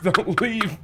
Don't leave.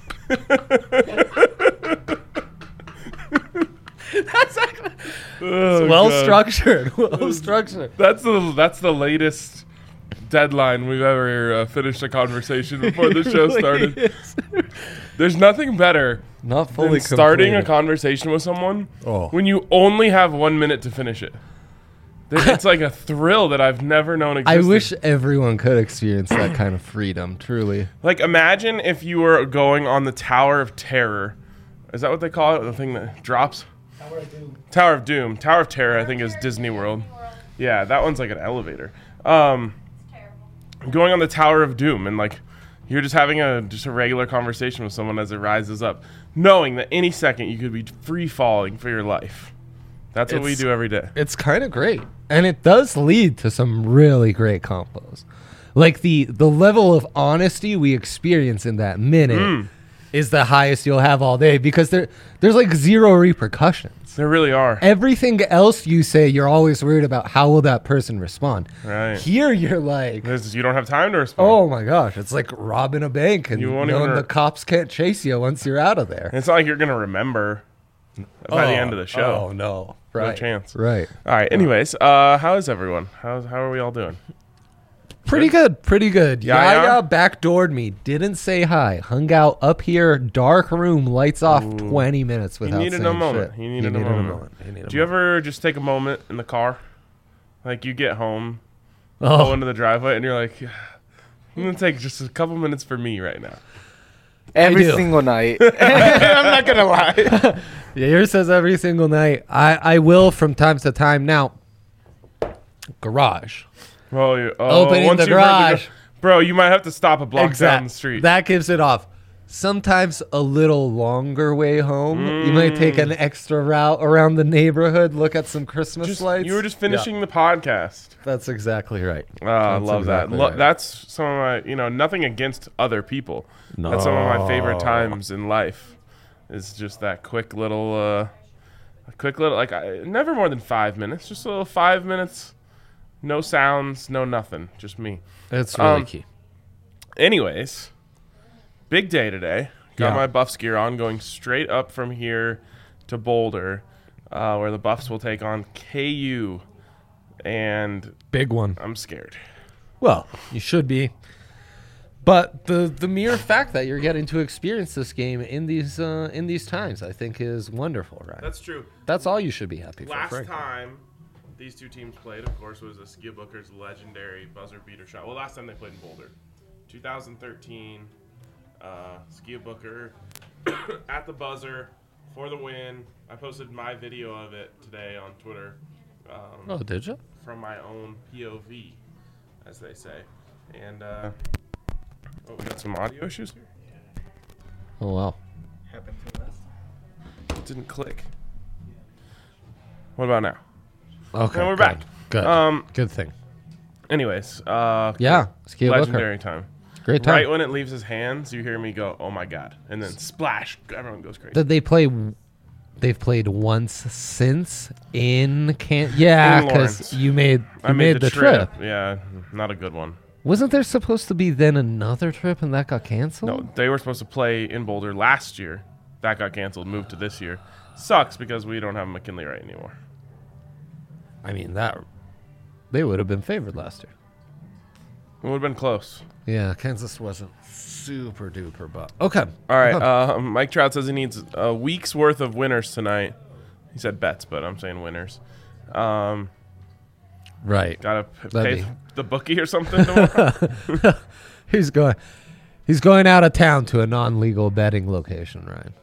That's actually Oh, well God. structured. Well structured. That's the latest deadline we've ever finished a conversation before the show started. There's nothing better Not fully than starting a completed. conversation with someone Oh. when you only have 1 minute to finish it. It's like a thrill that I've never known I existed. wish everyone could experience that kind of freedom, truly. Like, imagine if you were going on the Tower of Terror. Is that what they call it? The thing that drops? Tower of Doom. Tower of Doom. Tower of Terror, I think, is Disney World. Yeah, that one's like an elevator. Going on the Tower of Doom and like you're just having a regular conversation with someone as it rises up, knowing that any second you could be free falling for your life. That's what we do every day. It's kind of great. And it does lead to some really great combos. Like the level of honesty we experience in that minute is the highest you'll have all day because there's like zero repercussions. There really are. Everything else you say, you're always worried about how will that person respond. Right. Here, you're like, You don't have time to respond. oh my gosh, it's like robbing a bank and You won't knowing even the cops can't chase you once you're out of there. It's not like you're going to remember by the end of the show. Oh no, No right? chance. Right. All right. Anyways, how is everyone? How are we all doing? Pretty good. Pretty good. Yaya? Yaya backdoored me. Didn't say hi. Hung out up here, dark room, lights off. 20 minutes He without needed saying a moment. shit. He needed a moment. Do you ever just take a moment in the car? Like you get home, pull Oh, into the driveway, and you're like, I'm going to take just a couple minutes for me right now. Every do. single night. I'm not going to lie. yeah. Yours says every single night. I will from time to time. Now, garage. once Opening the you've heard garage. Bro, you might have to stop a block down the street. That gives it off. Sometimes a little longer way home. You might take an extra route around the neighborhood, look at some Christmas lights. You were just finishing the podcast. That's exactly right. I That's love exactly that. right. That's some of my, nothing against other people. That's some of my favorite times in life. Is just that quick little, never more than 5 minutes. Just a little 5 minutes. No sounds, no nothing. Just me. It's really key. Anyways, big day today. Got Yeah. my Buffs gear on, going straight up from here to Boulder, where the Buffs will take on KU. And Big one. I'm scared. Well, you should be. But the mere fact that you're getting to experience this game in these times, I think, is wonderful, right? That's true. That's all you should be happy for. Last frankly. time these two teams played, of course, was the Ski Booker's legendary buzzer beater shot. Well, last time they played in Boulder, 2013, Ski Booker at the buzzer for the win. I posted my video of it today on Twitter. Oh, did you? From my own POV, as they say. And we got some audio issues here. Oh wow. It didn't click. What about now? Okay. And we're good. back. Good. Good thing. Anyways, Yeah. Ski Booker. legendary time. Great time. Right when it leaves his hands, you hear me go, "Oh my god!" and then splash. Everyone goes crazy. Did they play? They've played once since in Yeah, In because Lawrence. you made I made the trip. Yeah, not a good one. Wasn't there supposed to be then another trip and that got canceled? No, they were supposed to play in Boulder last year. That got canceled, moved to this year. Sucks because we don't have McKinley Wright anymore. I mean they would have been favored last year. It would have been close. Yeah, Kansas wasn't super duper, but okay. All right, Mike Trout says he needs a week's worth of winners tonight. He said bets, but I'm saying winners. Right. Gotta That'd pay be- the bookie or something tomorrow. He's going out of town to a non-legal betting location, Ryan.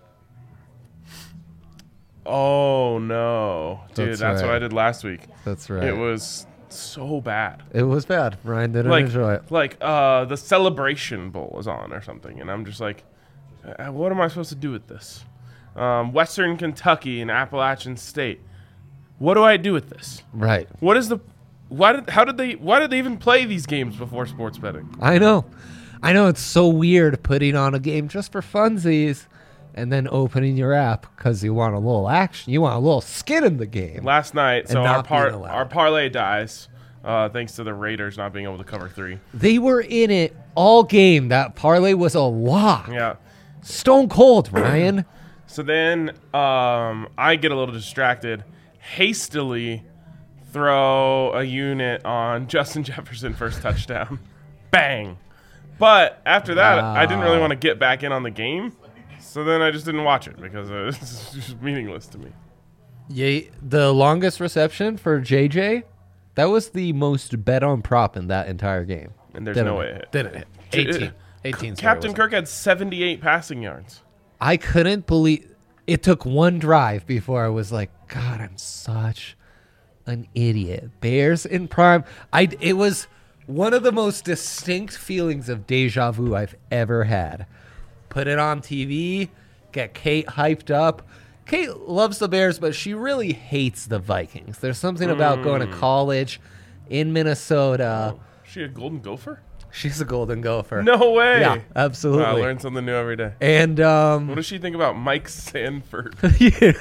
Oh no, dude, That's that's what right. I did last week. That's right. It was so bad. It was bad. Ryan didn't Like, enjoy it. the Celebration Bowl is on or something, and I'm just like, what am I supposed to do with this? Western Kentucky and Appalachian State. What do I do with this? Right. What is the? Why did they even play these games before sports betting? I know it's so weird putting on a game just for funsies and then opening your app because you want a little action. You want a little skin in the game. Last night, so And our not being allowed. our parlay dies. thanks to the Raiders not being able to cover 3. They were in it all game. That parlay was a lock. Yeah. Stone cold, Ryan. So then I get a little distracted, hastily throw a unit on Justin Jefferson first touchdown. Bang. But after that, I didn't really want to get back in on the game. So then I just didn't watch it because it's just meaningless to me. Yeah, the longest reception for JJ, that was the most bet on prop in that entire game. And there's no way it hit. Didn't hit. 18. Captain Kirk had 78 passing yards. I couldn't believe it took one drive before I was like, God, I'm such an idiot. Bears in prime. It was one of the most distinct feelings of deja vu I've ever had. Put it on TV, get Kate hyped up. Kate loves the Bears, but she really hates the Vikings. There's something about going to college in Minnesota. Oh, she a Golden Gopher? She's a Golden Gopher. No way. Yeah, absolutely. Wow, I learn something new every day. And what does she think about Mike Sanford? Yeah,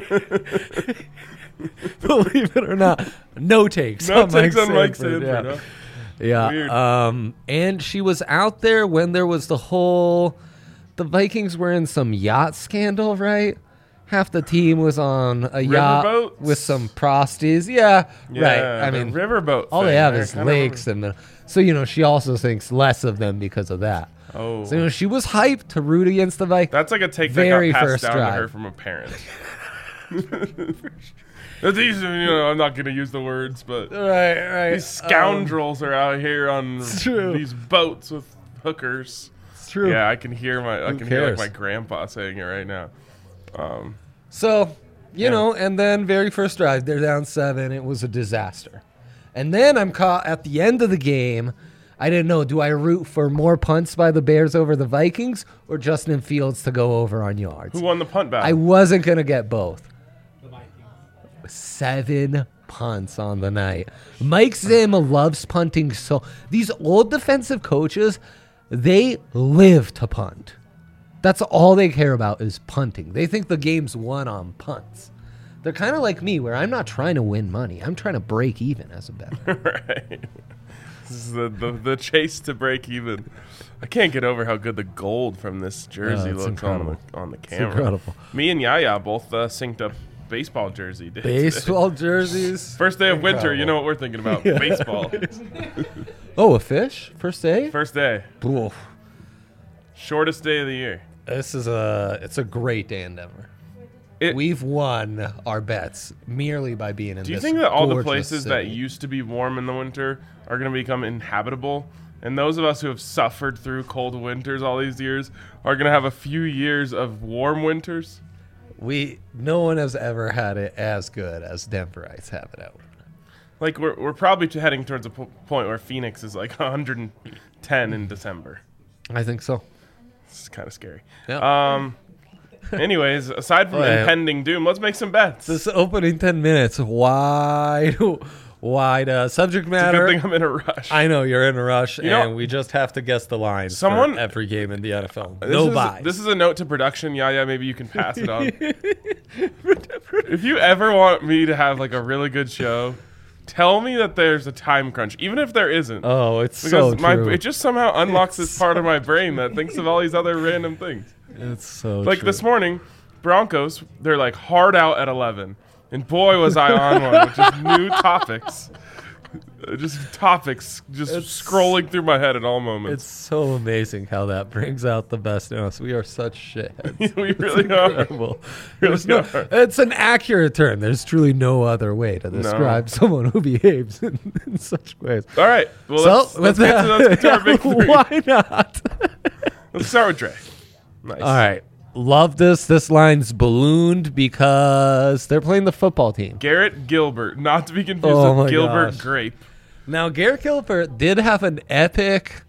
believe it or not, no takes. No on takes Mike on Mike Sanford, Sanford. yeah. Huh? Yeah. Weird. And she was out there when there was the Vikings were in some yacht scandal, right? Half the team was on a yacht Riverboats? with some prosties. Yeah, right. I the mean, riverboat. all they thing. have I is kinda lakes, and so she also thinks less of them because of that. Oh, So she was hyped to root against the Vikings. that's like a take Very that got first passed down drive. to her from a parent. That's easy, I'm not going to use the words, but Right. these scoundrels are out here on true. these boats with hookers. It's true. Yeah, I can hear hear cares? my grandpa saying it right now. So, you know, and then very first drive, they're down 7. It was a disaster. And then I'm caught at the end of the game. I didn't know, do I root for more punts by the Bears over the Vikings or Justin Fields to go over on yards? Who won the punt battle? I wasn't going to get both. 7 punts on the night. Mike Zima loves punting. So these old defensive coaches, they live to punt. That's all they care about is punting. They think the game's won on punts. They're kind of like me, where I'm not trying to win money. I'm trying to break even as a bettor. Right. This is the chase to break even. I can't get over how good the gold from this jersey it's looks incredible. on the camera. incredible. Me and Yaya both synced up baseball jersey days. Baseball jerseys. First day of winter, you Incredible. know what we're thinking about. Baseball. Oh, a fish? First day? First day. Oof. Shortest day of the year. It's a great day in Denver. It- We've won our bets merely by being in Do you this think that all the gorgeous places that city. used to be warm in the winter are going to become inhabitable? And those of us who have suffered through cold winters all these years are going to have a few years of warm winters? No one has ever had it as good as Denverites have it out. Like, we're probably heading towards a point where Phoenix is like 110 in December. I think so. It's kind of scary. Yeah. Anyways, aside from Well, impending doom, let's make some bets. This opening 10 minutes, wide subject It's a matter. good thing I'm in a rush. I know you're in a rush, know- and we just have to guess the lines Someone- for every game in the NFL. This No is- buys. This is a note to production. Yeah, maybe you can pass it on. If you ever want me to have like a really good show, tell me that there's a time crunch, even if there isn't. Oh, it's Because so true. it just somehow unlocks this part of my brain that thinks of all these other random things. It's so Like true. this morning, Broncos, they're like hard out at 11. And boy, was I on one with just new topics. Just scrolling through my head at all moments. It's so amazing how that brings out the best in us. We are such shitheads. We really are. Incredible. Really There's no- are. it's an accurate term. There's truly no other way to describe someone who behaves in such ways. All right. Well, let's get to our big three. Why not? Let's start with Dre. Nice. All right. Love this. This line's ballooned because they're playing the football team. Garrett Gilbert, not to be confused Oh my with Gilbert gosh. Grape. Now, Garrett Gilbert did have an epic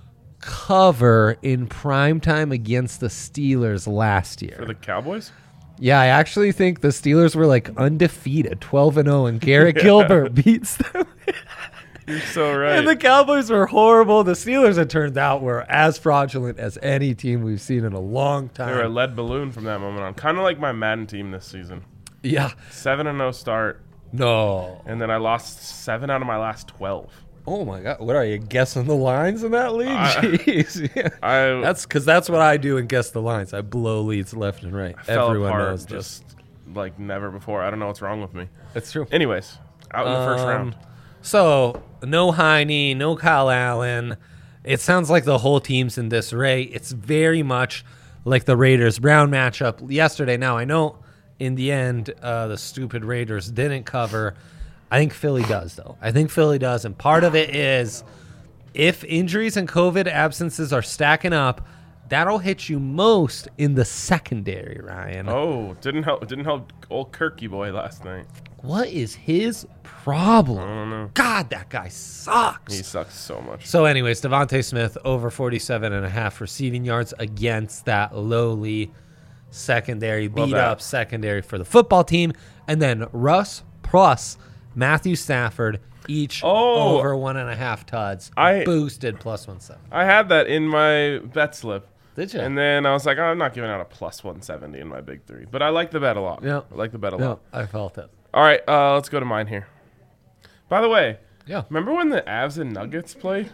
cover in primetime against the Steelers last year. For the Cowboys? Yeah, I actually think the Steelers were like undefeated, 12-0, and Garrett Gilbert beats them. You're so right. And the Cowboys were horrible. The Steelers, it turned out, were as fraudulent as any team we've seen in a long they were a time. lead balloon from that moment on. Kind of like my Madden team this season. Yeah. 7-0 start. No. And then I lost 7 out of my last 12. Oh my God! What are you guessing the lines in that league? Jeez, yeah. That's what I do and guess the lines. I blow leads left and right. Fell Everyone apart knows this. just like never before. I don't know what's wrong with me. That's true. Anyways, out in the first round. So no Heine, no Kyle Allen. It sounds like the whole team's in disarray. It's very much like the Raiders-Brown matchup yesterday. Now I know in the end the stupid Raiders didn't cover. I think Philly does, though. I think Philly does, and part of it is if injuries and COVID absences are stacking up, that'll hit you most in the secondary, Ryan. Oh, didn't help old Kirky boy last night. What is his problem? I don't know. God, that guy sucks. He sucks so much. So anyways, Devontae Smith over 47.5 receiving yards against that lowly secondary, beat up secondary for the football team. And then Russ plus Matthew Stafford, each over 1.5 tuds, boosted plus 170. I had that in my bet slip. Did you? And then I was like, I'm not giving out a plus 170 in my big three. But I like the bet a lot. Yeah. I like the bet a lot. I felt it. All right, let's go to mine here. By the way, yeah, remember when the Avs and Nuggets played?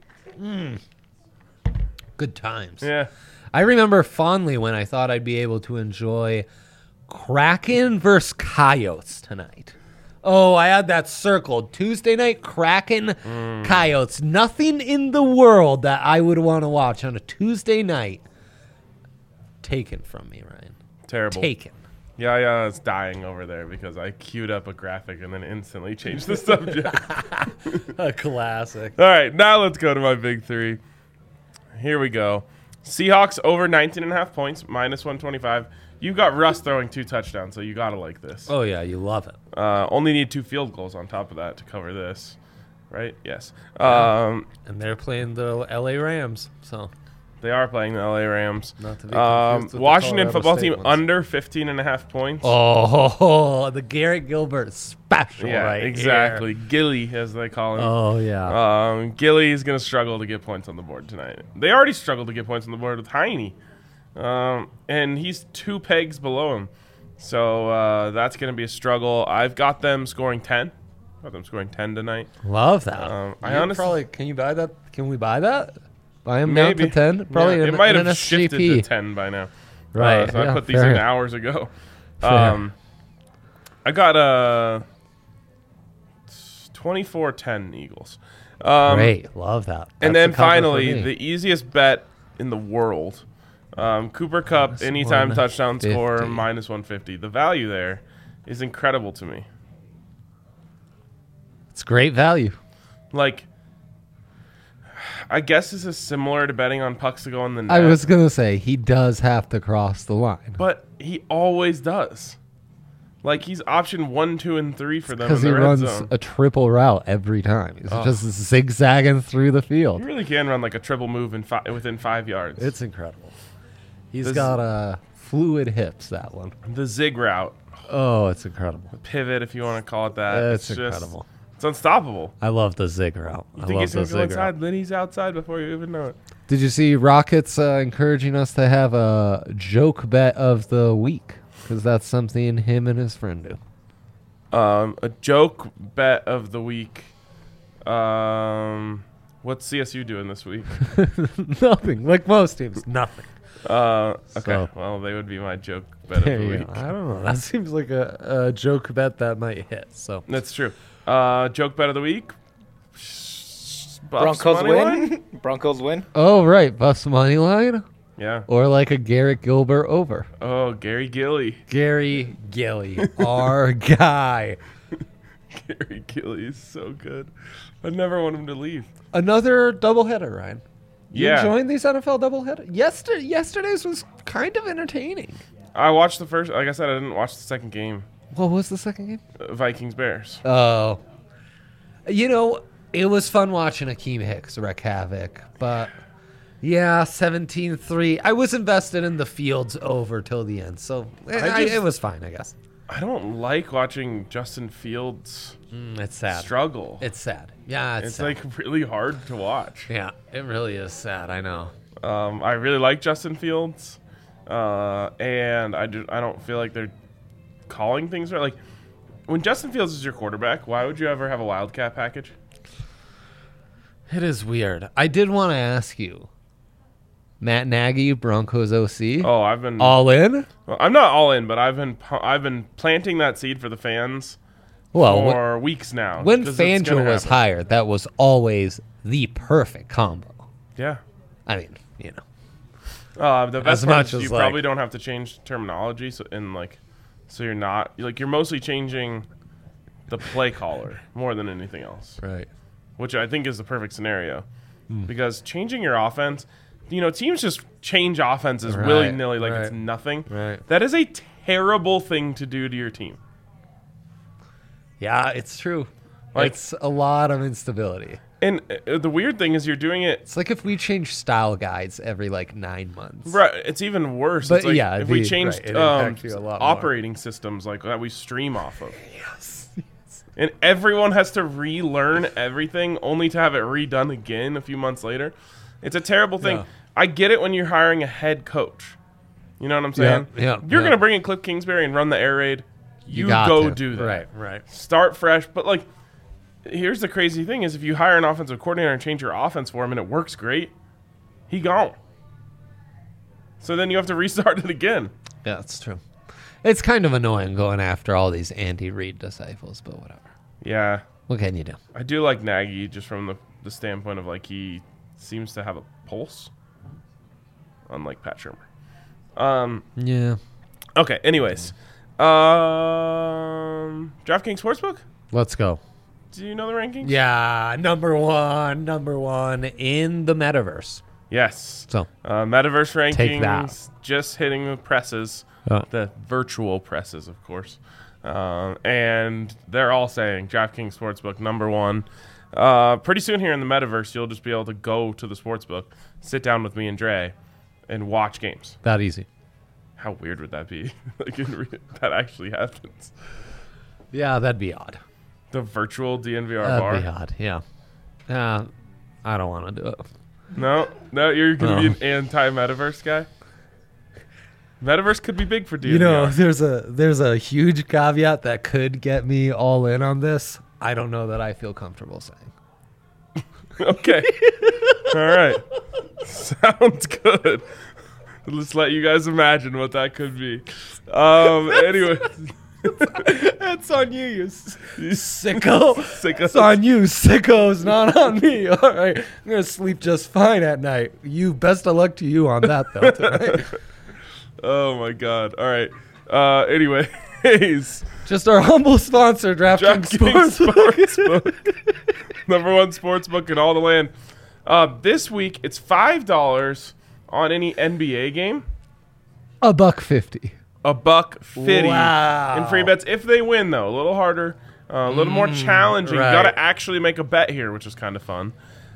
Good times. Yeah. I remember fondly when I thought I'd be able to enjoy Kraken versus Coyotes tonight. Oh, I had that circled. Tuesday night, Kraken, Coyotes. Nothing in the world that I would want to watch on a Tuesday night taken from me, Ryan. Terrible. Taken. Yeah, it's dying over there because I queued up a graphic and then instantly changed the subject. A classic. All right, now let's go to my big three. Here we go. Seahawks over 19.5 points, minus 125. You got Russ throwing 2 touchdowns, so you got to like this. Oh, yeah, you love it. Only need 2 field goals on top of that to cover this, right? Yes. And they're playing the LA Rams, so. They are playing the LA Rams. Not to be confused with Washington the football State team ones. under 15.5 points. Oh, the Garrett Gilbert special right exactly. here. Gilly, as they call him. Oh, yeah. Gilly is going to struggle to get points on the board tonight. They already struggled to get points on the board with Heine. And he's 2 pegs below him. So that's going to be a struggle. I've got them scoring 10. Got them scoring 10 tonight. Love that. I honestly probably can you buy that? Can we buy that? Buy him maybe down to 10? Probably yeah, in, it might in have an shifted SGP. to 10 by now. Right. So I put these in fair. hours ago. Fair. I got 24-10 Eagles. Great. Love that. And That's then the cover for finally, me. the easiest bet in the world. Cooper Kupp, Minus anytime touchdown 150. score, minus 150. The value there is incredible to me. It's great value. Like, I guess this is similar to betting on pucks to go in the net. I was going to say, he does have to cross the line. But he always does. Like, he's option 1, 2, and 3 for them in Because he the red runs zone. a triple route every time. He's just zigzagging through the field. You really can run like a triple move within 5 yards. It's incredible. He's This- got fluid hips, that one. the zig route. Oh, it's incredible. Pivot, if you want to call it that. It's just- incredible. It's unstoppable. I love the zig route. You I think love he's the going to go zig inside, route. then he's outside before you even know it. Did you see Rockets encouraging us to have a joke bet of the week? Because that's something him and his friend do. A joke bet of the week. What's CSU doing this week? Nothing. Like most teams, nothing. Okay, So- well, they would be my joke bet There of the you week. go. I don't know. That seems like a joke bet that might hit. So That's true. Joke bet of the week. Buffs Broncos money win. line? Broncos win. oh right, Buffs money line Yeah. or like a Garrett Gilbert over. Oh, Gary Gilly. Gary Gilly, our guy. Gary Gilly is so good. I never want him to leave. Another doubleheader, Ryan. You Yeah. enjoying these NFL doubleheaders? Yesterday's was kind of entertaining. I watched the first. Like I said, I didn't watch the second game. What was the second game? Vikings Bears. Oh. You know, it was fun watching Akeem Hicks wreak havoc, but yeah, 17-3. I was invested in the Fields over till the end, so it was fine, I guess. I don't like watching Justin Fields It's sad. struggle. It's sad. Yeah, It's sad. like really hard to watch. Yeah, it really is sad, I know. I really like Justin Fields, and I don't feel like they're calling things right. Like when Justin Fields is your quarterback, why would you ever have a Wildcat package? It is weird. I did want to ask you, Matt Nagy, Broncos OC. Oh, I've been all in. Well, I'm not all in, but I've been planting that seed for the fans for weeks now. When Fangio was hired, that was always the perfect combo. Yeah. I mean, you know. The best part is you like, probably don't have to change terminology, so you're not you're mostly changing the play caller more than anything else, right? Which I think is the perfect scenario, because changing your offense, teams just change offenses willy nilly like it's nothing. Right. That is a terrible thing to do to your team. Yeah, it's true. It's a lot of instability. And the weird thing is you're doing it. It's like if we change style guides every 9 months. Right. It's even worse. But it's like yeah, if we changed operating systems that we stream off of. Yes. And everyone has to relearn everything only to have it redone again a few months later. It's a terrible thing. Yeah. I get it when you're hiring a head coach. You know what I'm saying? Yeah. You're going to bring in Cliff Kingsbury and run the air raid. You go do that. Right. Start fresh. But here's the crazy thing is if you hire an offensive coordinator and change your offense for him and it works great, he gone. So then you have to restart it again. Yeah, that's true. It's kind of annoying going after all these Andy Reid disciples, but whatever. Yeah. What can you do? I do like Nagy just from the standpoint of he seems to have a pulse, unlike Pat Shurmur. Yeah. Okay, anyways. DraftKings Sportsbook? Let's go. Do you know the rankings? Yeah, number one in the metaverse. Yes. So metaverse rankings, take that. Just hitting the presses, the virtual presses, of course. And they're all saying DraftKings Sportsbook number one. Pretty soon here in the metaverse, you'll just be able to go to the sportsbook, sit down with me and Dre, and watch games. That easy. How weird would that be? That actually happens. Yeah, that'd be odd. The virtual DNVR bar. That'd be odd. Yeah. I don't want to do it. No, you're gonna be an anti-metaverse guy. Metaverse could be big for DNVR. There's a huge caveat that could get me all in on this. I don't know that I feel comfortable saying. Okay. All right. Sounds good. Let's let you guys imagine what that could be. Anyway. That's on you, you sicko. Sicko. It's on you, sickos, not on me. All right. I'm going to sleep just fine at night. Best of luck to you on that, though, tonight. Oh, my God. All right. Anyways. Just our humble sponsor, DraftKings Sportsbook. Number one sportsbook in all the land. This week, it's $5 on any NBA game. $1.50. $1.50 wow. in free bets if they win, though. A little harder, a little more challenging. Right. You got to actually make a bet here, which is kind of fun.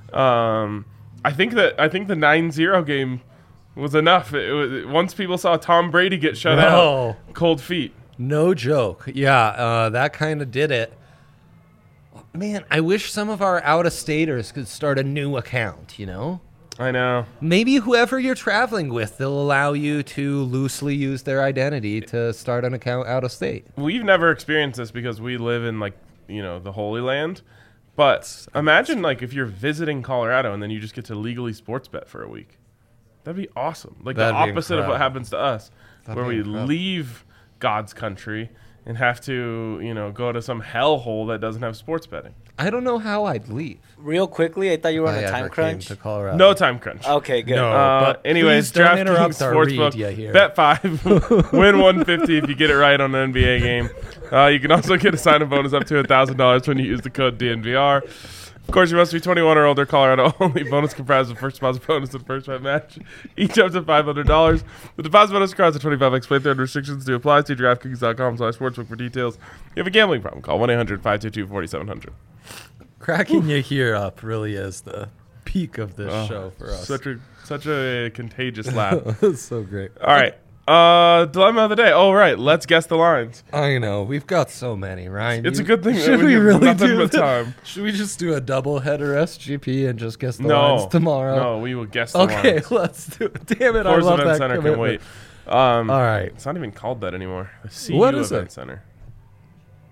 I think the 9-0 game was enough. Once people saw Tom Brady get shut out, cold feet. No joke. Yeah, that kind of did it. Man, I wish some of our out-of-staters could start a new account, I know. Maybe whoever you're traveling with, they'll allow you to loosely use their identity to start an account out of state. We've never experienced this because we live in the Holy Land. But imagine if you're visiting Colorado and then you just get to legally sports bet for a week. That'd be awesome. The opposite of what happens to us, where we leave God's country and have to, go to some hellhole that doesn't have sports betting. I don't know how I'd leave. Real quickly, I thought you were on a time crunch. No time crunch. Okay, good. No, anyways, DraftKings Sportsbook, bet 5, win 150 if you get it right on an NBA game. You can also get a sign-up bonus up to $1,000 when you use the code DNVR. Of course, you must be 21 or older. Colorado only. Bonus comprised of first deposit bonus and first bet match. Each up to $500. The deposit bonus requires a 25x play through and restrictions to apply. See DraftKings.com/sportsbook for details. If you have a gambling problem, call 1-800-522-4700. Cracking you here up really is the peak of this show for us. Such a contagious laugh. That's so great. All right. Dilemma of the day. Oh, right. Let's guess the lines. I know. We've got so many, Ryan. It's a good thing should that we really nothing do but that? time. Should we just do a double header SGP and just guess the lines tomorrow? No, we will guess the okay, lines. let's do it. Damn it, Coors I love Event that Center commitment. can wait. All right. It's not even called that anymore. The CU What is Event it? Center.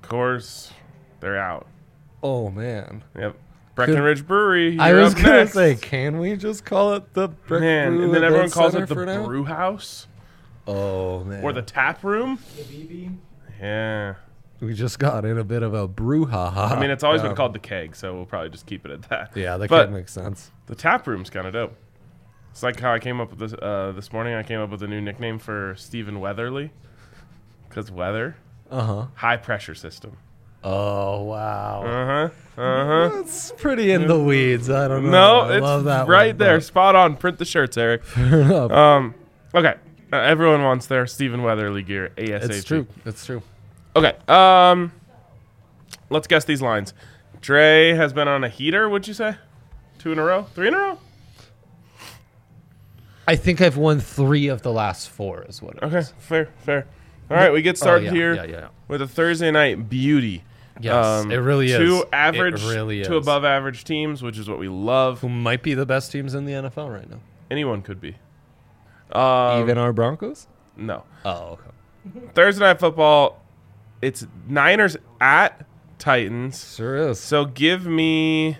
course, they're out. Oh, man. Yep. Breckenridge Brewery. I was going to say, can we just call it the Man, and then everyone calls it the Brew House. Oh, man. Or the Tap Room. Yeah. We just got in a bit of a brouhaha. I mean, it's always been called the Keg, so we'll probably just keep it at that. Yeah, the But Keg makes sense. The Tap Room's kind of dope. It's like how I came up with this this morning. I came up with a new nickname for Stephen Weatherly. Because weather. Uh-huh. High pressure system. Oh, wow. Uh-huh. Uh-huh. That's pretty in the weeds. I don't know. No, I it's love that right one, there. Spot on. Print the shirts, Eric. Okay. Everyone wants their Stephen Weatherly gear ASAP. It's true. It's true. Okay. Let's guess these lines. Dre has been on a heater, would you say? 2 in a row? 3 in a row? I think I've won 3 of the last 4 is what it Okay, is. fair. All right, we get started here Yeah. with a Thursday night beauty. Yes, it really is. 2 average It really is. to above average teams, which is what we love. Who might be the best teams in the NFL right now? Anyone could be. Even our Broncos? No. Oh, okay. Thursday night football, it's Niners at Titans. Sure is. So give me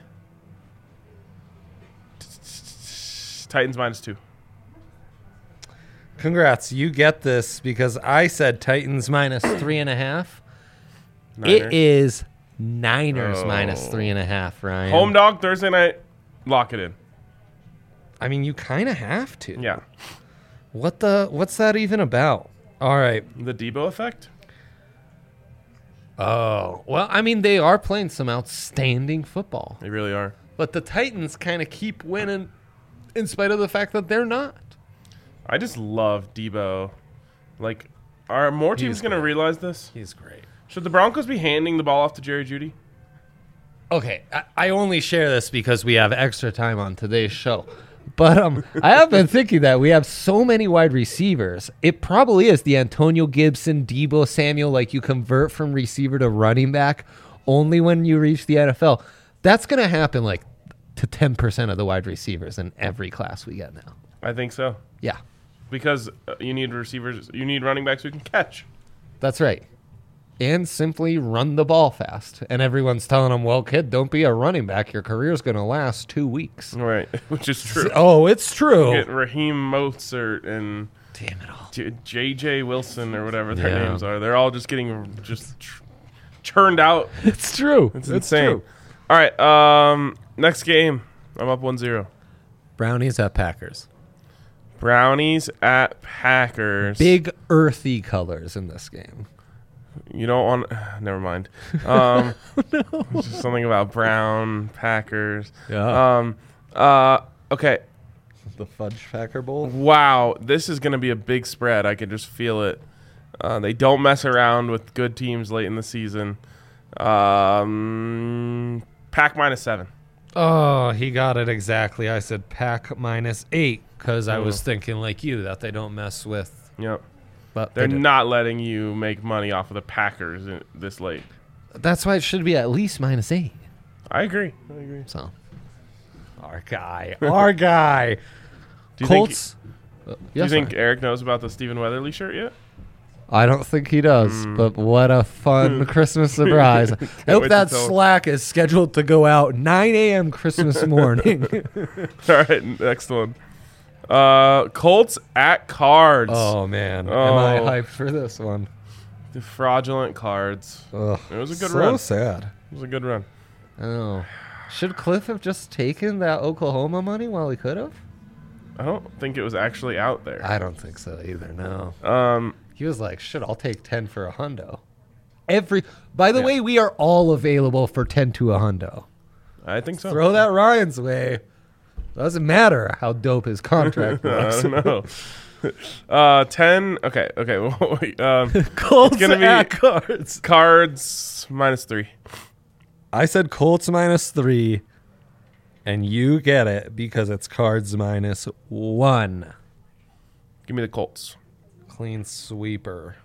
Titans -2. Congrats. You get this because I said Titans -3.5. It is Niners -3.5, Ryan. Home dog Thursday night. Lock it in. I mean, you kind of have to. Yeah. What's that even about? All right. The Debo effect? Oh, well, I mean, they are playing some outstanding football. They really are. But the Titans kind of keep winning in spite of the fact that they're not. I just love Debo. Like, are more teams going to realize this? He's great. Should the Broncos be handing the ball off to Jerry Jeudy? Okay, I only share this because we have extra time on today's show. But I have been thinking that we have so many wide receivers. It probably is the Antonio Gibson, Debo Samuel, like you convert from receiver to running back only when you reach the NFL. That's going to happen like to 10% of the wide receivers in every class we get now. I think so. Yeah, Because you need receivers, you need running backs who can catch. that's right. And simply run the ball fast. And everyone's telling them, well, kid, don't be a running back. Your career's going to last 2 weeks. Right, which is true. Oh, it's true. Get Raheem Mostert and Damn it all. J.J. Wilson or whatever their Yeah. names are. They're all just getting churned out. It's true. It's insane. All right, next game. I'm up 1-0. Brownies at Packers. Brownies at Packers. Big earthy colors in this game. You don't want... Never mind. Just something about brown Packers. Yeah. Okay. The Fudge Packer Bowl. Wow. This is going to be a big spread. I can just feel it. They don't mess around with good teams late in the season. Pack -7. Oh, he got it exactly. I said Pack -8 because I was thinking like you that they don't mess with. Yep. But They're they do. not letting you make money off of the Packers this late. That's why it should be at least -8. I agree. So, our guy. Do you Colts. do you think Eric knows about the Stephen Weatherly shirt yet? I don't think he does, but what a fun Christmas surprise. I hope wait that to tell him. Slack is scheduled to go out 9 a.m. Christmas morning. All right, next one. Colts at Cards. Oh, man. Am I Oh. hyped for this one? The fraudulent Cards. Ugh, It was a good so run. sad. It was a good run. I know. Should Cliff have just taken that Oklahoma money while he could have? I don't think it was actually out there. I don't think so either, no. He was like, shit, I'll take 10 for a hundo. By the way, we are all available for 10 to a hundo. I think so. Throw that Ryan's way. Doesn't matter how dope his contract I was. don't know. 10. Okay. Wait, Colts gonna be- at Cards. Cards -3. I said Colts -3, and you get it because it's Cards -1. Give me the Colts. Clean sweeper.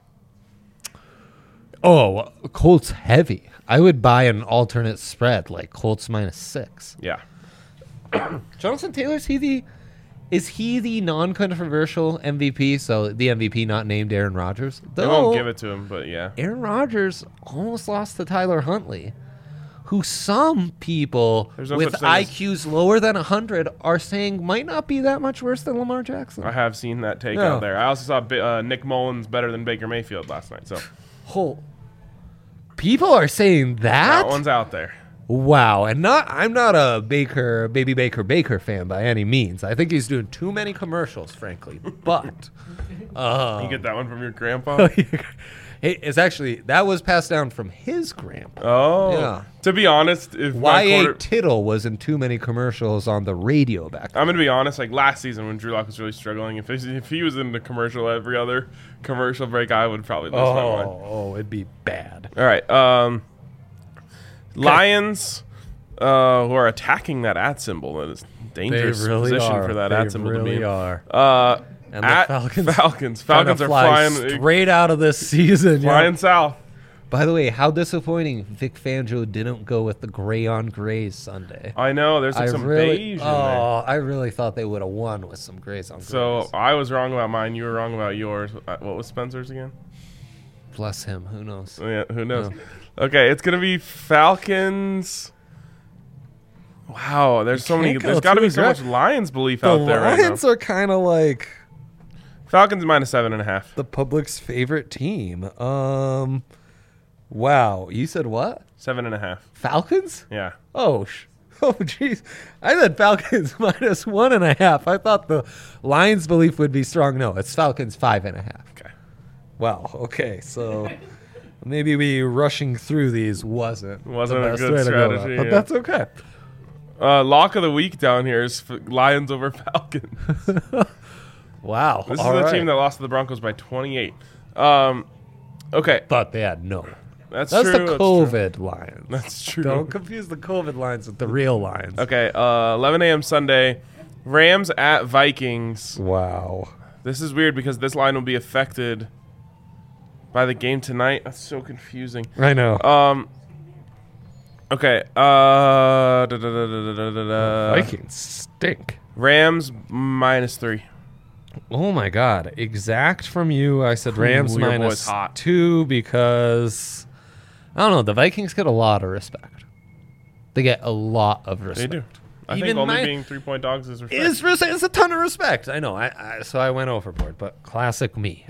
Oh, Colts heavy. I would buy an alternate spread like Colts -6. Yeah. Jonathan Taylor, is he Is he the non-controversial MVP? So the MVP not named Aaron Rodgers? They won't give it to him, but yeah. Aaron Rodgers almost lost to Tyler Huntley, who some people with IQs lower than 100 are saying might not be that much worse than Lamar Jackson. I have seen that take out there. I also saw Nick Mullins better than Baker Mayfield last night. So, people are saying that? That one's out there. Wow, and I'm not a Baby Baker fan by any means. I think he's doing too many commercials, frankly. But you get that one from your grandpa? It's actually that was passed down from his grandpa. Oh, yeah. To be honest, if Y.A. Tittle was in too many commercials on the radio back then. I'm gonna be honest. Like last season when Drew Lock was really struggling, if he was in the commercial every other commercial break, I would probably lose my mind. Oh, it'd be bad. All right. Lions, who are attacking that @ symbol. That is dangerous position for that @ symbol to be in. And the Falcons are flying straight out of this season. Flying south. By the way, how disappointing Vic Fangio didn't go with the gray on grays Sunday. I know. There's some beige in there. I really thought they would have won with some grays on grays. So I was wrong about mine. You were wrong about yours. What was Spencer's again? Bless him. Who knows? Yeah, who knows? Okay, it's going to be Falcons. Wow, there's so many. There's got to be so much Lions belief out there right now. The Lions are kind of like Falcons -7.5. the public's favorite team. Wow, you said what? 7.5. Falcons? Yeah. Oh, jeez. I said Falcons -1.5. I thought the Lions' belief would be strong. No, it's Falcons 5.5. Okay. Wow. Okay, so maybe we rushing through these wasn't a good strategy, but that's okay. Lock of the week down here is Lions over Falcons. Wow. This is the team that lost to the Broncos by 28. Okay. But they had no. That's true. The COVID Lions. That's true. Don't confuse the COVID Lions with the real Lions. Okay. 11 a.m. Sunday. Rams at Vikings. Wow. This is weird because this line will be affected by the game tonight. That's so confusing. I know. Okay. Vikings stink. Rams -3. Oh my God! Exact from you. I said Rams -2 because I don't know. The Vikings get a lot of respect. They get a lot of respect. They do. I think only being 3-point dogs is respect. It's a ton of respect. I know. So I went overboard, but classic me.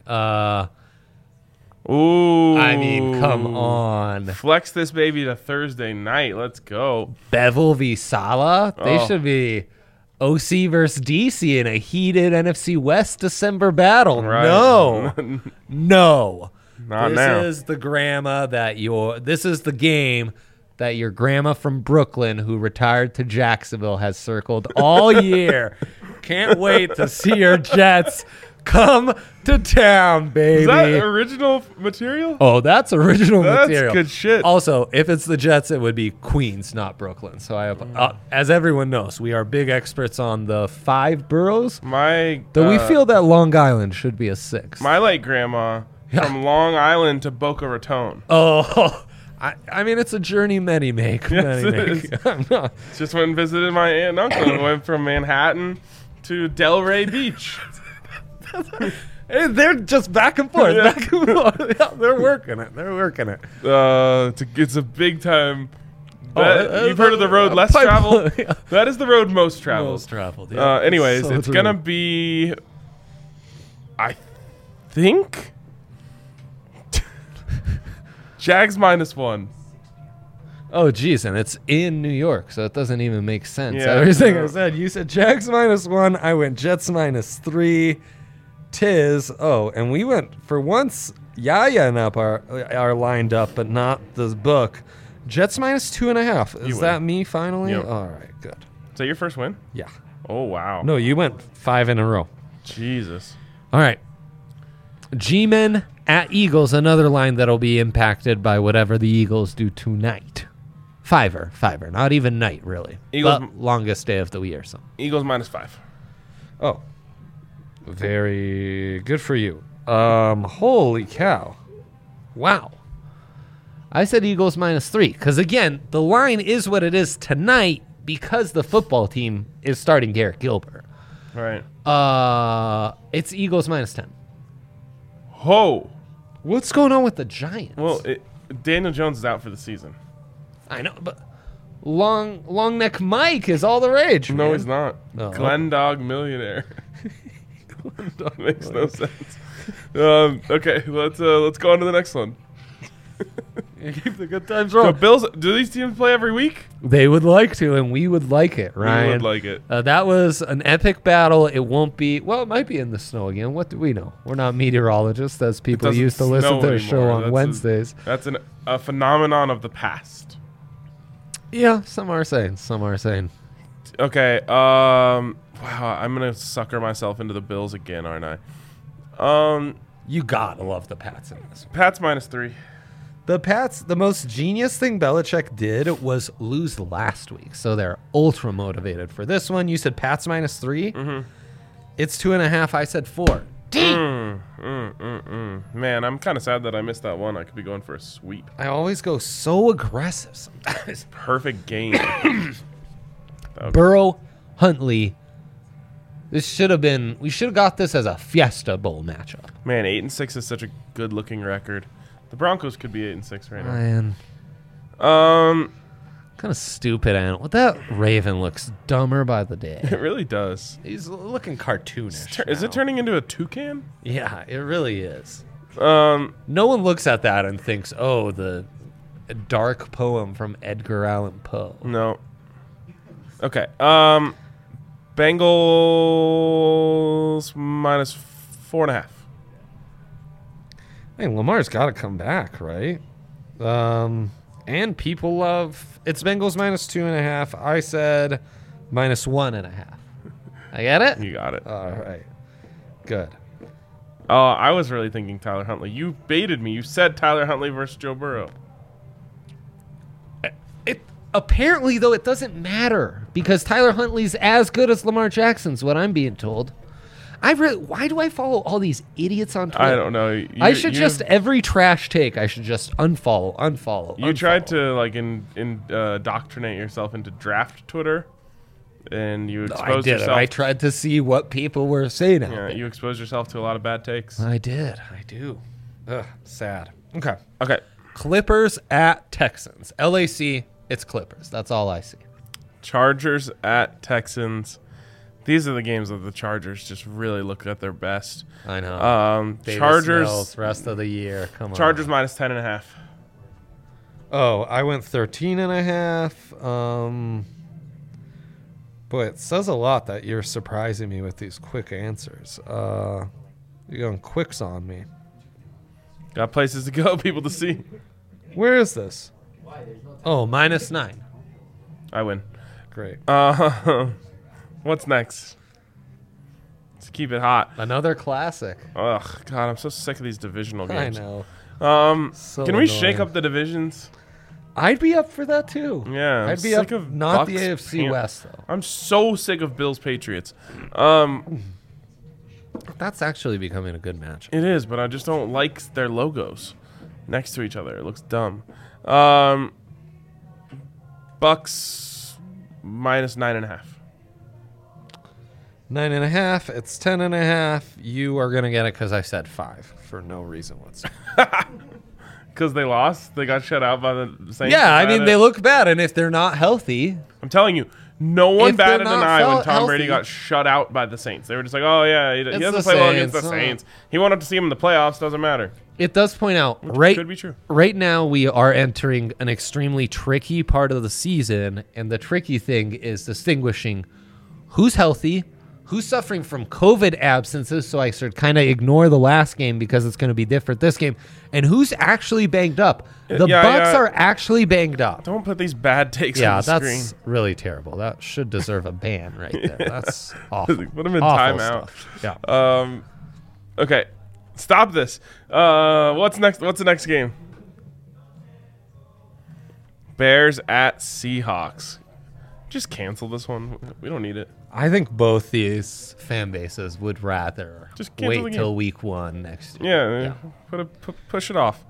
Ooh. I mean, come on. Flex this baby to Thursday night. Let's go. Bevel v. Salah. They should be OC versus DC in a heated NFC West December battle. Right. No. No. Not now. This is the game that your grandma from Brooklyn who retired to Jacksonville has circled all year. Can't wait to see your Jets come to town, baby. Is that original material? Oh, that's original material. That's good shit. Also, if it's the Jets, it would be Queens, not Brooklyn. So as everyone knows, we are big experts on the 5 boroughs. We feel that Long Island should be a 6. My late grandma from Long Island to Boca Raton. Oh, I mean, it's a journey many make. Yes, just went and visited my aunt and uncle. Went from Manhattan to Delray Beach. Hey, they're just back and forth. Yeah. Back and forth. Yeah, they're working it. It's a big time. You've heard of the road less traveled? Yeah. That is the road most traveled. Yeah. Anyways, so it's going to be, I think, Jags -1. Oh, geez, and it's in New York, so it doesn't even make sense. Yeah, Everything I said, you said Jags -1. I went Jets -3. And we went for once. Yaya and Up are lined up, but not the book. Jets -2.5. Is that me finally? Yep. All right, good. Is that your first win? Yeah. Oh wow. No, you went 5 in a row. Jesus. All right. G-Men at Eagles, another line that'll be impacted by whatever the Eagles do tonight. Fiver, not even night really. Eagles but longest day of the year. So Eagles -5. Oh. Very good for you. Holy cow. Wow. I said Eagles -3 because, again, the line is what it is tonight because the football team is starting Garrett Gilbert. Right. It's Eagles -10. Ho! What's going on with the Giants? Well, Daniel Jones is out for the season. I know, but long neck Mike is all the rage. No, man. he's not. Oh. Glendog millionaire. Glendog makes no sense. Okay, let's go on to the next one. Keep the good times So rolling. Bills, do these teams play every week? They would like to, and we would like it, Ryan. We would like it. That was an epic battle. It won't be. Well, it might be in the snow again. What do we know? We're not meteorologists, as people doesn't used to listen snow to their show anymore. on Wednesdays. That's a phenomenon of the past. Yeah, some are saying. Some are saying. Okay. Wow, I'm gonna sucker myself into the Bills again, aren't I? You gotta love the Pats in this. Pats -3. The Pats, the most genius thing Belichick did was lose last week, so they're ultra motivated for this one. You said Pats -3. Mm-hmm. It's 2.5. I said 4. Man, I'm kind of sad that I missed that one. I could be going for a sweep. I always go so aggressive sometimes. Perfect game. Burrow, Huntley. This should have been. We should have got this as a Fiesta Bowl matchup. Man, 8-6 is such a good-looking record. The Broncos could be 8-6 right now. Man, kind of stupid animal. That Raven looks dumber by the day. It really does. He's looking cartoonish. Is it now. turning into a toucan? Yeah, it really is. No one looks at that and thinks, "Oh, the dark poem from Edgar Allan Poe." No. Okay. Bengals -4.5. Hey, Lamar's got to come back, right? And people love it's Bengals -2.5. I said -1.5. I get it. You got it. All right, good. I was really thinking Tyler Huntley. You baited me. You said Tyler Huntley versus Joe Burrow. Apparently, though, it doesn't matter because Tyler Huntley's as good as Lamar Jackson's. What I'm being told. Why do I follow all these idiots on Twitter? I don't know. I should just every trash take. I should just unfollow. You tried to indoctrinate yourself into draft Twitter, and you exposed yourself. I tried to see what people were saying. Yeah, you exposed yourself to a lot of bad takes. I did. I do. Ugh, sad. Okay. Clippers at Texans. LAC. It's Clippers. That's all I see. Chargers at Texans. These are the games that the Chargers just really look at their best. I know. Chargers Mills, rest of the year. Come on. Chargers -10.5. Oh, I went 13.5. Boy, it says a lot that you're surprising me with these quick answers. You're going quicks on me. Got places to go, people to see. Where is this? Oh, -9. I win. Great. What's next? Let's keep it hot. Another classic. Ugh, God, I'm so sick of these divisional games. I know. So can we shake up the divisions? I'd be up for that too. Yeah, I'd be up. Not the AFC West though. I'm so sick of Bills Patriots. That's actually becoming a good match. It is, but I just don't like their logos next to each other. It looks dumb. Bucks -9.5. 9.5. It's 10.5. You are gonna get it because I said 5 for no reason whatsoever. Because they lost, they got shut out by the Saints. Yeah, I mean they look bad, and if they're not healthy, I'm telling you, no one batted an eye when Tom Brady healthy. got shut out by the Saints. They were just like, "Oh yeah, he doesn't the play well against the Saints. Saints. He won't have to see him in the playoffs. Doesn't matter." it does point out Could be true. right now we are entering an extremely tricky part of the season, and the tricky thing is distinguishing who's healthy, who's suffering from COVID absences, so I should kind of ignore the last game because it's going to be different this game, and who's actually banged up. The Bucks are actually banged up. Don't put these bad takes on the screen. That's really terrible. That should deserve a ban right there. That's awful. Put him in Awful timeout. stuff. Yeah. Okay. Stop this. What's next? What's the next game? Bears at Seahawks. Just cancel this one. We don't need it. I think both these fan bases would rather Just cancel the wait game. till week 1 next year. Yeah. Push it off.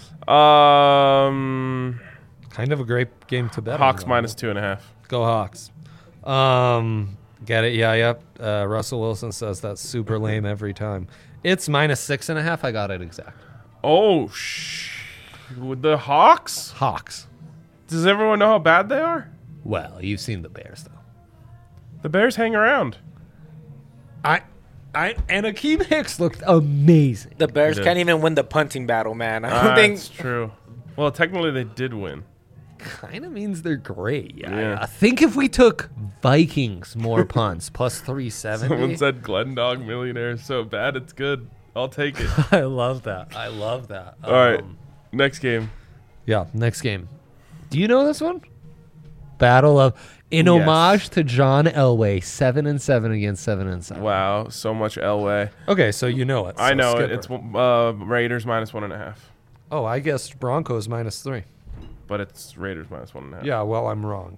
Kind Kind of a great game to bet Hawks on. -2.5. Go Hawks. Get it? Yeah, yep. Russell Wilson says that's super lame every time. It's -6.5. I got it exact. Oh, the Hawks? Hawks. Does everyone know how bad they are? Well, you've seen the Bears, though. The Bears hang around. And Akeem Hicks looked amazing. The Bears can't even win the punting battle, man. I don't think. That's true. Well, technically they did win. Kind of means they're great. Yeah. I think if we took Vikings more punts plus 370. Someone said Glendog Millionaire is so bad it's good. I'll take it. I love that. All right. Next game. Yeah, next game. Do you know this one? Battle of in homage to John Elway, 7-7 against 7-7. Wow, so much Elway. Okay, so you know it. So I know it. skip It's her. Raiders -1.5. Oh, I guessed Broncos -3. But it's Raiders -1.5. Yeah, well, I'm wrong.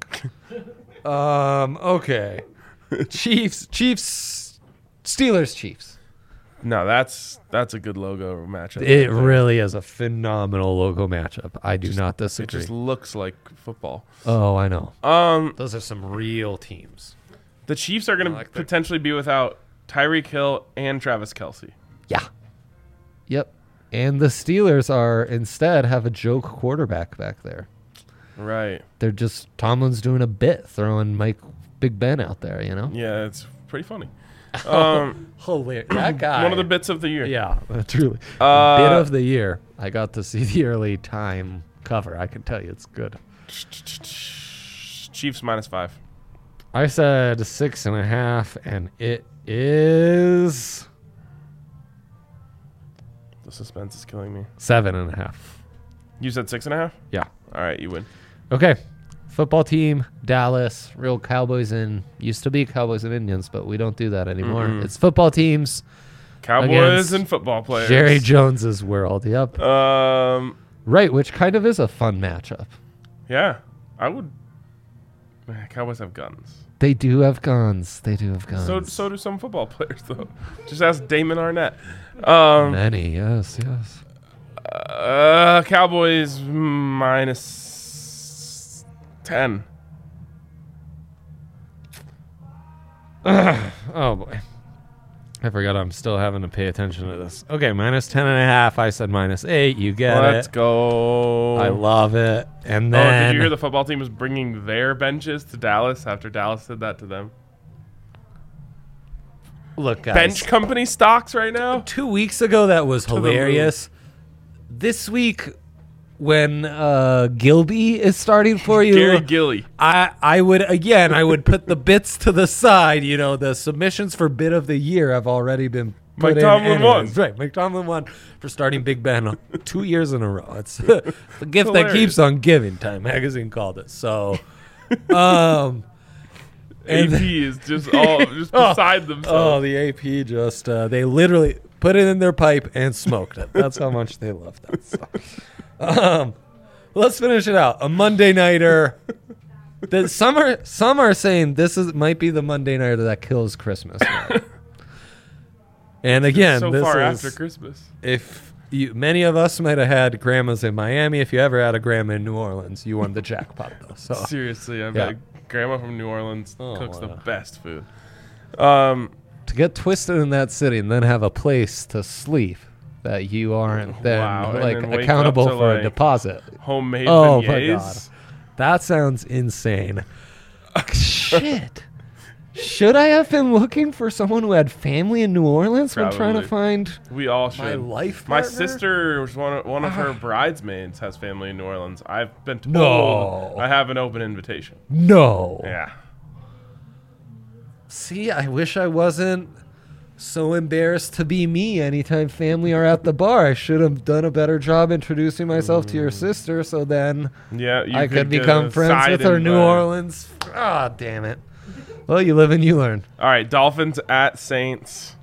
Okay. Chiefs, Steelers, Chiefs. No, that's a good logo matchup. It really is a phenomenal logo matchup. I do not It disagree. just looks like football. Oh, I know. Um, Those are some real teams. the Chiefs are going to potentially be without Tyreek Hill and Travis Kelce. Yeah. Yep. And the Steelers are instead have a joke quarterback back there. Right. They're just Tomlin's doing a bit, throwing Big Ben out there, you know? Yeah, it's pretty funny. Hilarious. That guy. One of the bits of the year. Yeah, truly. Bit of the year. I got to see the early time cover. I can tell you it's good. Chiefs -5. I said 6.5, and it is The suspense is killing me. 7.5. You said 6.5? Yeah. All right, you win. Okay. Football team, Dallas, real Cowboys and used to be Cowboys and Indians, but we don't do that anymore. Mm-mm. It's football teams. Cowboys against and football players. Jerry Jones's world. Yep. Right, which kind of is a fun matchup. Yeah, I would. Cowboys have guns. They do have guns. They do have guns. So do some football players, though. Just ask Damon Arnett. Many, yes. Cowboys -10. Oh boy, I forgot I'm still having to pay attention to this. Okay, -10.5. I said -8. You get Let's it. go. I love it. And Oh, then did you hear the football team was bringing their benches to Dallas after Dallas did that to them? look, guys. Bench company stocks right now? 2 weeks ago, that was the moon. hilarious. This week, when Gilby is starting for you, Gary Gilly. I would put the bits to the side. You know, the submissions for bit of the year have already been put Mike in Tomlin won. Right, Mike Tomlin won for starting Big Ben 2 years in a row. It's the gift that keeps on giving. Time Magazine called it. So, AP is just beside themselves. Oh, the AP just they literally put it in their pipe and smoked it. That's how much they love that stuff. Let's finish it out. A Monday nighter. Some are saying this might be the Monday nighter that kills Christmas. And again, so this far is, after Christmas. If many of us might have had grandmas in Miami. If you ever had a grandma in New Orleans, you won the jackpot though. So Seriously, I Yeah. bet Grandma from New Orleans cooks the wow. best food. to get twisted in that city and then have a place to sleep that you aren't then Wow, and like then wake accountable up to, for a like, deposit. Homemade Oh my beignets. god, that sounds insane. Shit. Should I have been looking for someone who had family in New Orleans when trying to Probably. find We all should. my life My partner? sister was one of her bridesmaids has family in New Orleans. I've been told No. I have an open invitation. No. Yeah. See, I wish I wasn't so embarrassed to be me anytime family are at the bar. I should have done a better job introducing myself to your sister so then Yeah, you I could become friends with her New Orleans. Ah, damn it. Well, you live and you learn. All right, Dolphins at Saints.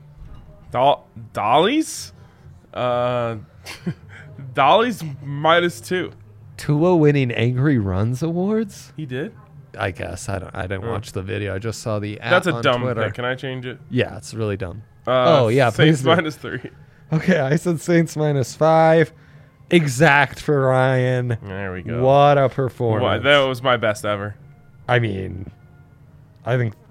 Dollies? Dollies -2. Tua winning Angry Runs awards? He did? I guess. I didn't watch the video. I just saw the ad That's a on dumb Twitter. pick. Can I change it? Yeah, it's really dumb. Oh, yeah, Saints please do. -3. Okay, I said Saints -5. Exact for Ryan. There we go. What a performance. That was my best ever. I mean, I think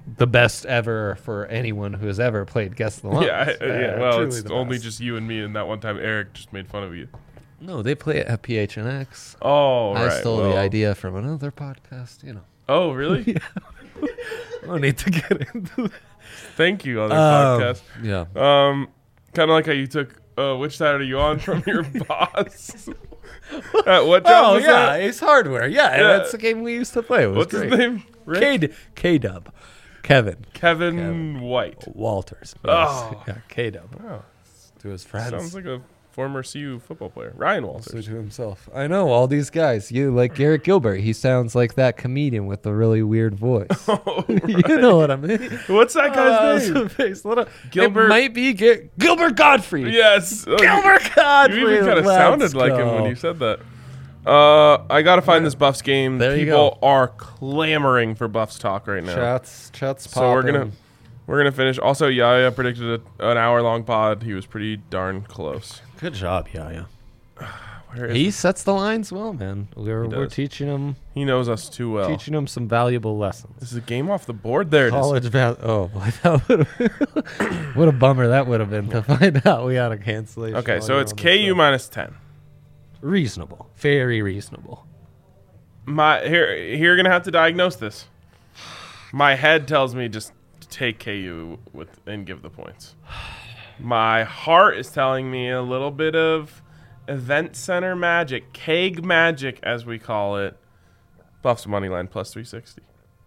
the best ever for anyone who has ever played Guess the Lines. Yeah. Well, truly it's the only best. just you and me, and that one time Eric just made fun of you. No, they play it at PHNX. Oh, right. I stole the idea from another podcast, Oh, really? I don't need to get into that. Thank you, other podcast. Yeah. Kind of like how you took. Which side are you on from your boss? What job was that? Ace Hardware. Yeah, Yeah. that's the game we used to play. It was What's great. his name? Rick? K-Dub. Kevin Kevin White. Walters. Oh. Yeah, K-Dub. Oh, To his friends. sounds like a former CU football player, Ryan Also Walters. to himself. I know all these guys. You like Garrett Gilbert. He sounds like that comedian with the really weird voice. Oh, You know what I mean? what's that guy's name? Gilbert- It might be Gilbert Godfrey. Yes, Gilbert Godfrey. You even kind of let's sounded like him when go. you said that. I gotta find this Buffs game. There you People are clamoring for Buffs talk right now. Chats So we're popping. gonna finish. Also, Yaya predicted an hour-long pod. He was pretty darn close. Good job, yeah. Where is He sets the lines well, man. We're does. teaching him he knows us too well. some valuable lessons. This is a game off the board. There it is. College oh boy, that would what a bummer that would have been to find out we had a cancellation. Okay, while so you're it's on the KU show. minus 10. Reasonable, very reasonable. Here you're gonna have to diagnose this. My head tells me just take KU and give the points. My heart is telling me a little bit of event center magic, keg magic as we call it. Buffs money line plus 360.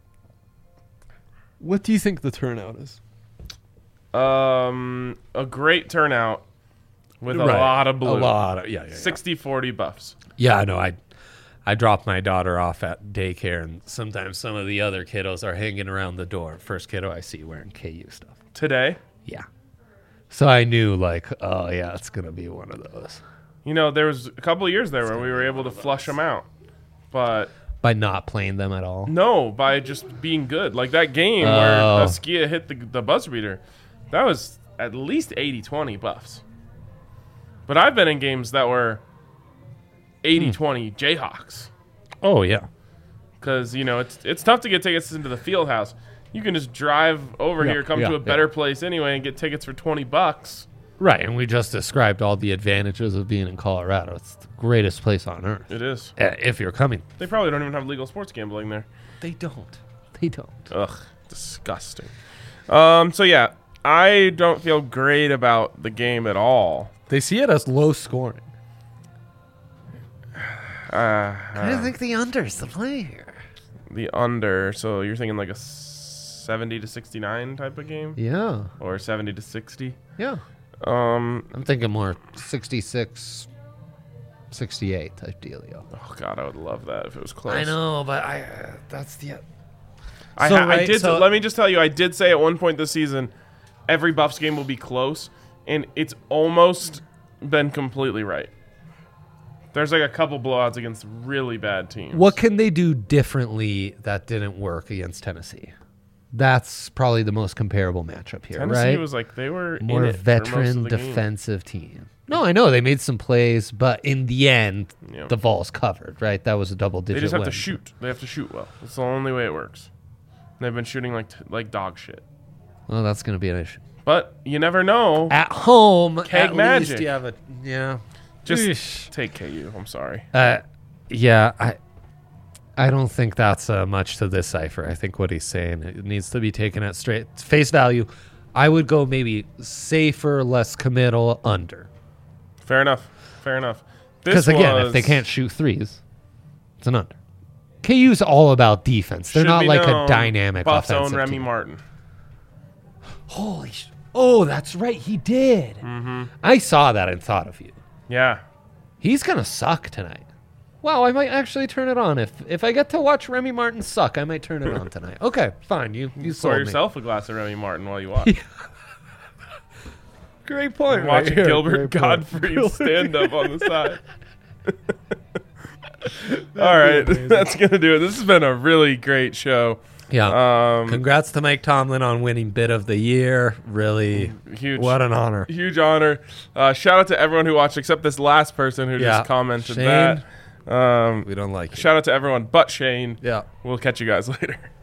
What do you think the turnout is? A great turnout with a lot of blue. Yeah. 60-40 Buffs. Yeah, I know. I dropped my daughter off at daycare, and sometimes some of the other kiddos are hanging around the door. First kiddo I see wearing KU stuff. Today, Yeah. So I knew, like, oh yeah, it's gonna be one of those. there was a couple of years there where we were able to flush them out. But By not playing them at all. no, by just being good. Like that game Oh. where Skia hit the buzzer beater, that was at least 80-20 Buffs. But I've been in games that were 80-20 Jayhawks. Oh yeah. Because, it's tough to get tickets into the field house. You can just drive over here, come to a better place anyway, and get tickets for $20. Right, and we just described all the advantages of being in Colorado. It's the greatest place on earth. It is. If you're coming. They probably don't even have legal sports gambling there. They don't. They don't. Ugh, disgusting. So yeah, I don't feel great about the game at all. They see it as low scoring. I think the under's the play here. The under. So you're thinking like a 70-69 type of game, Yeah. or 70-60. Yeah. I'm thinking more 66, 68 type dealio. Oh God, I would love that if it was close. I know, but that's the... I did. Let me just tell you, I did say at one point this season, every Buffs game will be close, and it's almost been completely right. There's like a couple blowouts against really bad teams. What can they do differently that didn't work against Tennessee? That's probably the most comparable matchup here, Tennessee right? was like they were More in it for most veteran of the game. defensive team. No, I know they made some plays, but in the end, Yeah. the Vols covered, right? That was a double-digit They just have win. to shoot. They have to shoot well. It's the only way it works. They've been shooting like dog shit. Well, that's going to be an issue. But you never know. At home, Keg at magic. least you have a... Yeah. Just Eesh. take KU. I'm sorry. Yeah, I don't think that's much to decipher. I think what he's saying, it needs to be taken at straight face value. I would go maybe safer, less committal, under. Fair enough. Fair enough. Because again, if they can't shoot threes, it's an under. KU's all about defense. They're not like a dynamic Buffs offensive own Remy team. Martin. Holy sh! Oh, that's right, he did. Mm-hmm. I saw that and thought of you. Yeah. He's gonna suck tonight. Wow, I might actually turn it on. If I get to watch Remy Martin suck, I might turn it on tonight. Okay, fine. You Pour sold me. yourself a glass of Remy Martin while you watch. Great point. Watching right here. Gilbert Great point. Godfrey stand up on the side. All right, that's gonna do it. This has been a really great show. Yeah. Congrats to Mike Tomlin on winning Bit of the Year. Really, Huge. what an honor. Huge honor. Shout out to everyone who watched, except this last person who just commented Shane, that. we don't like it. Shout out to everyone but Shane. Yeah. We'll catch you guys later.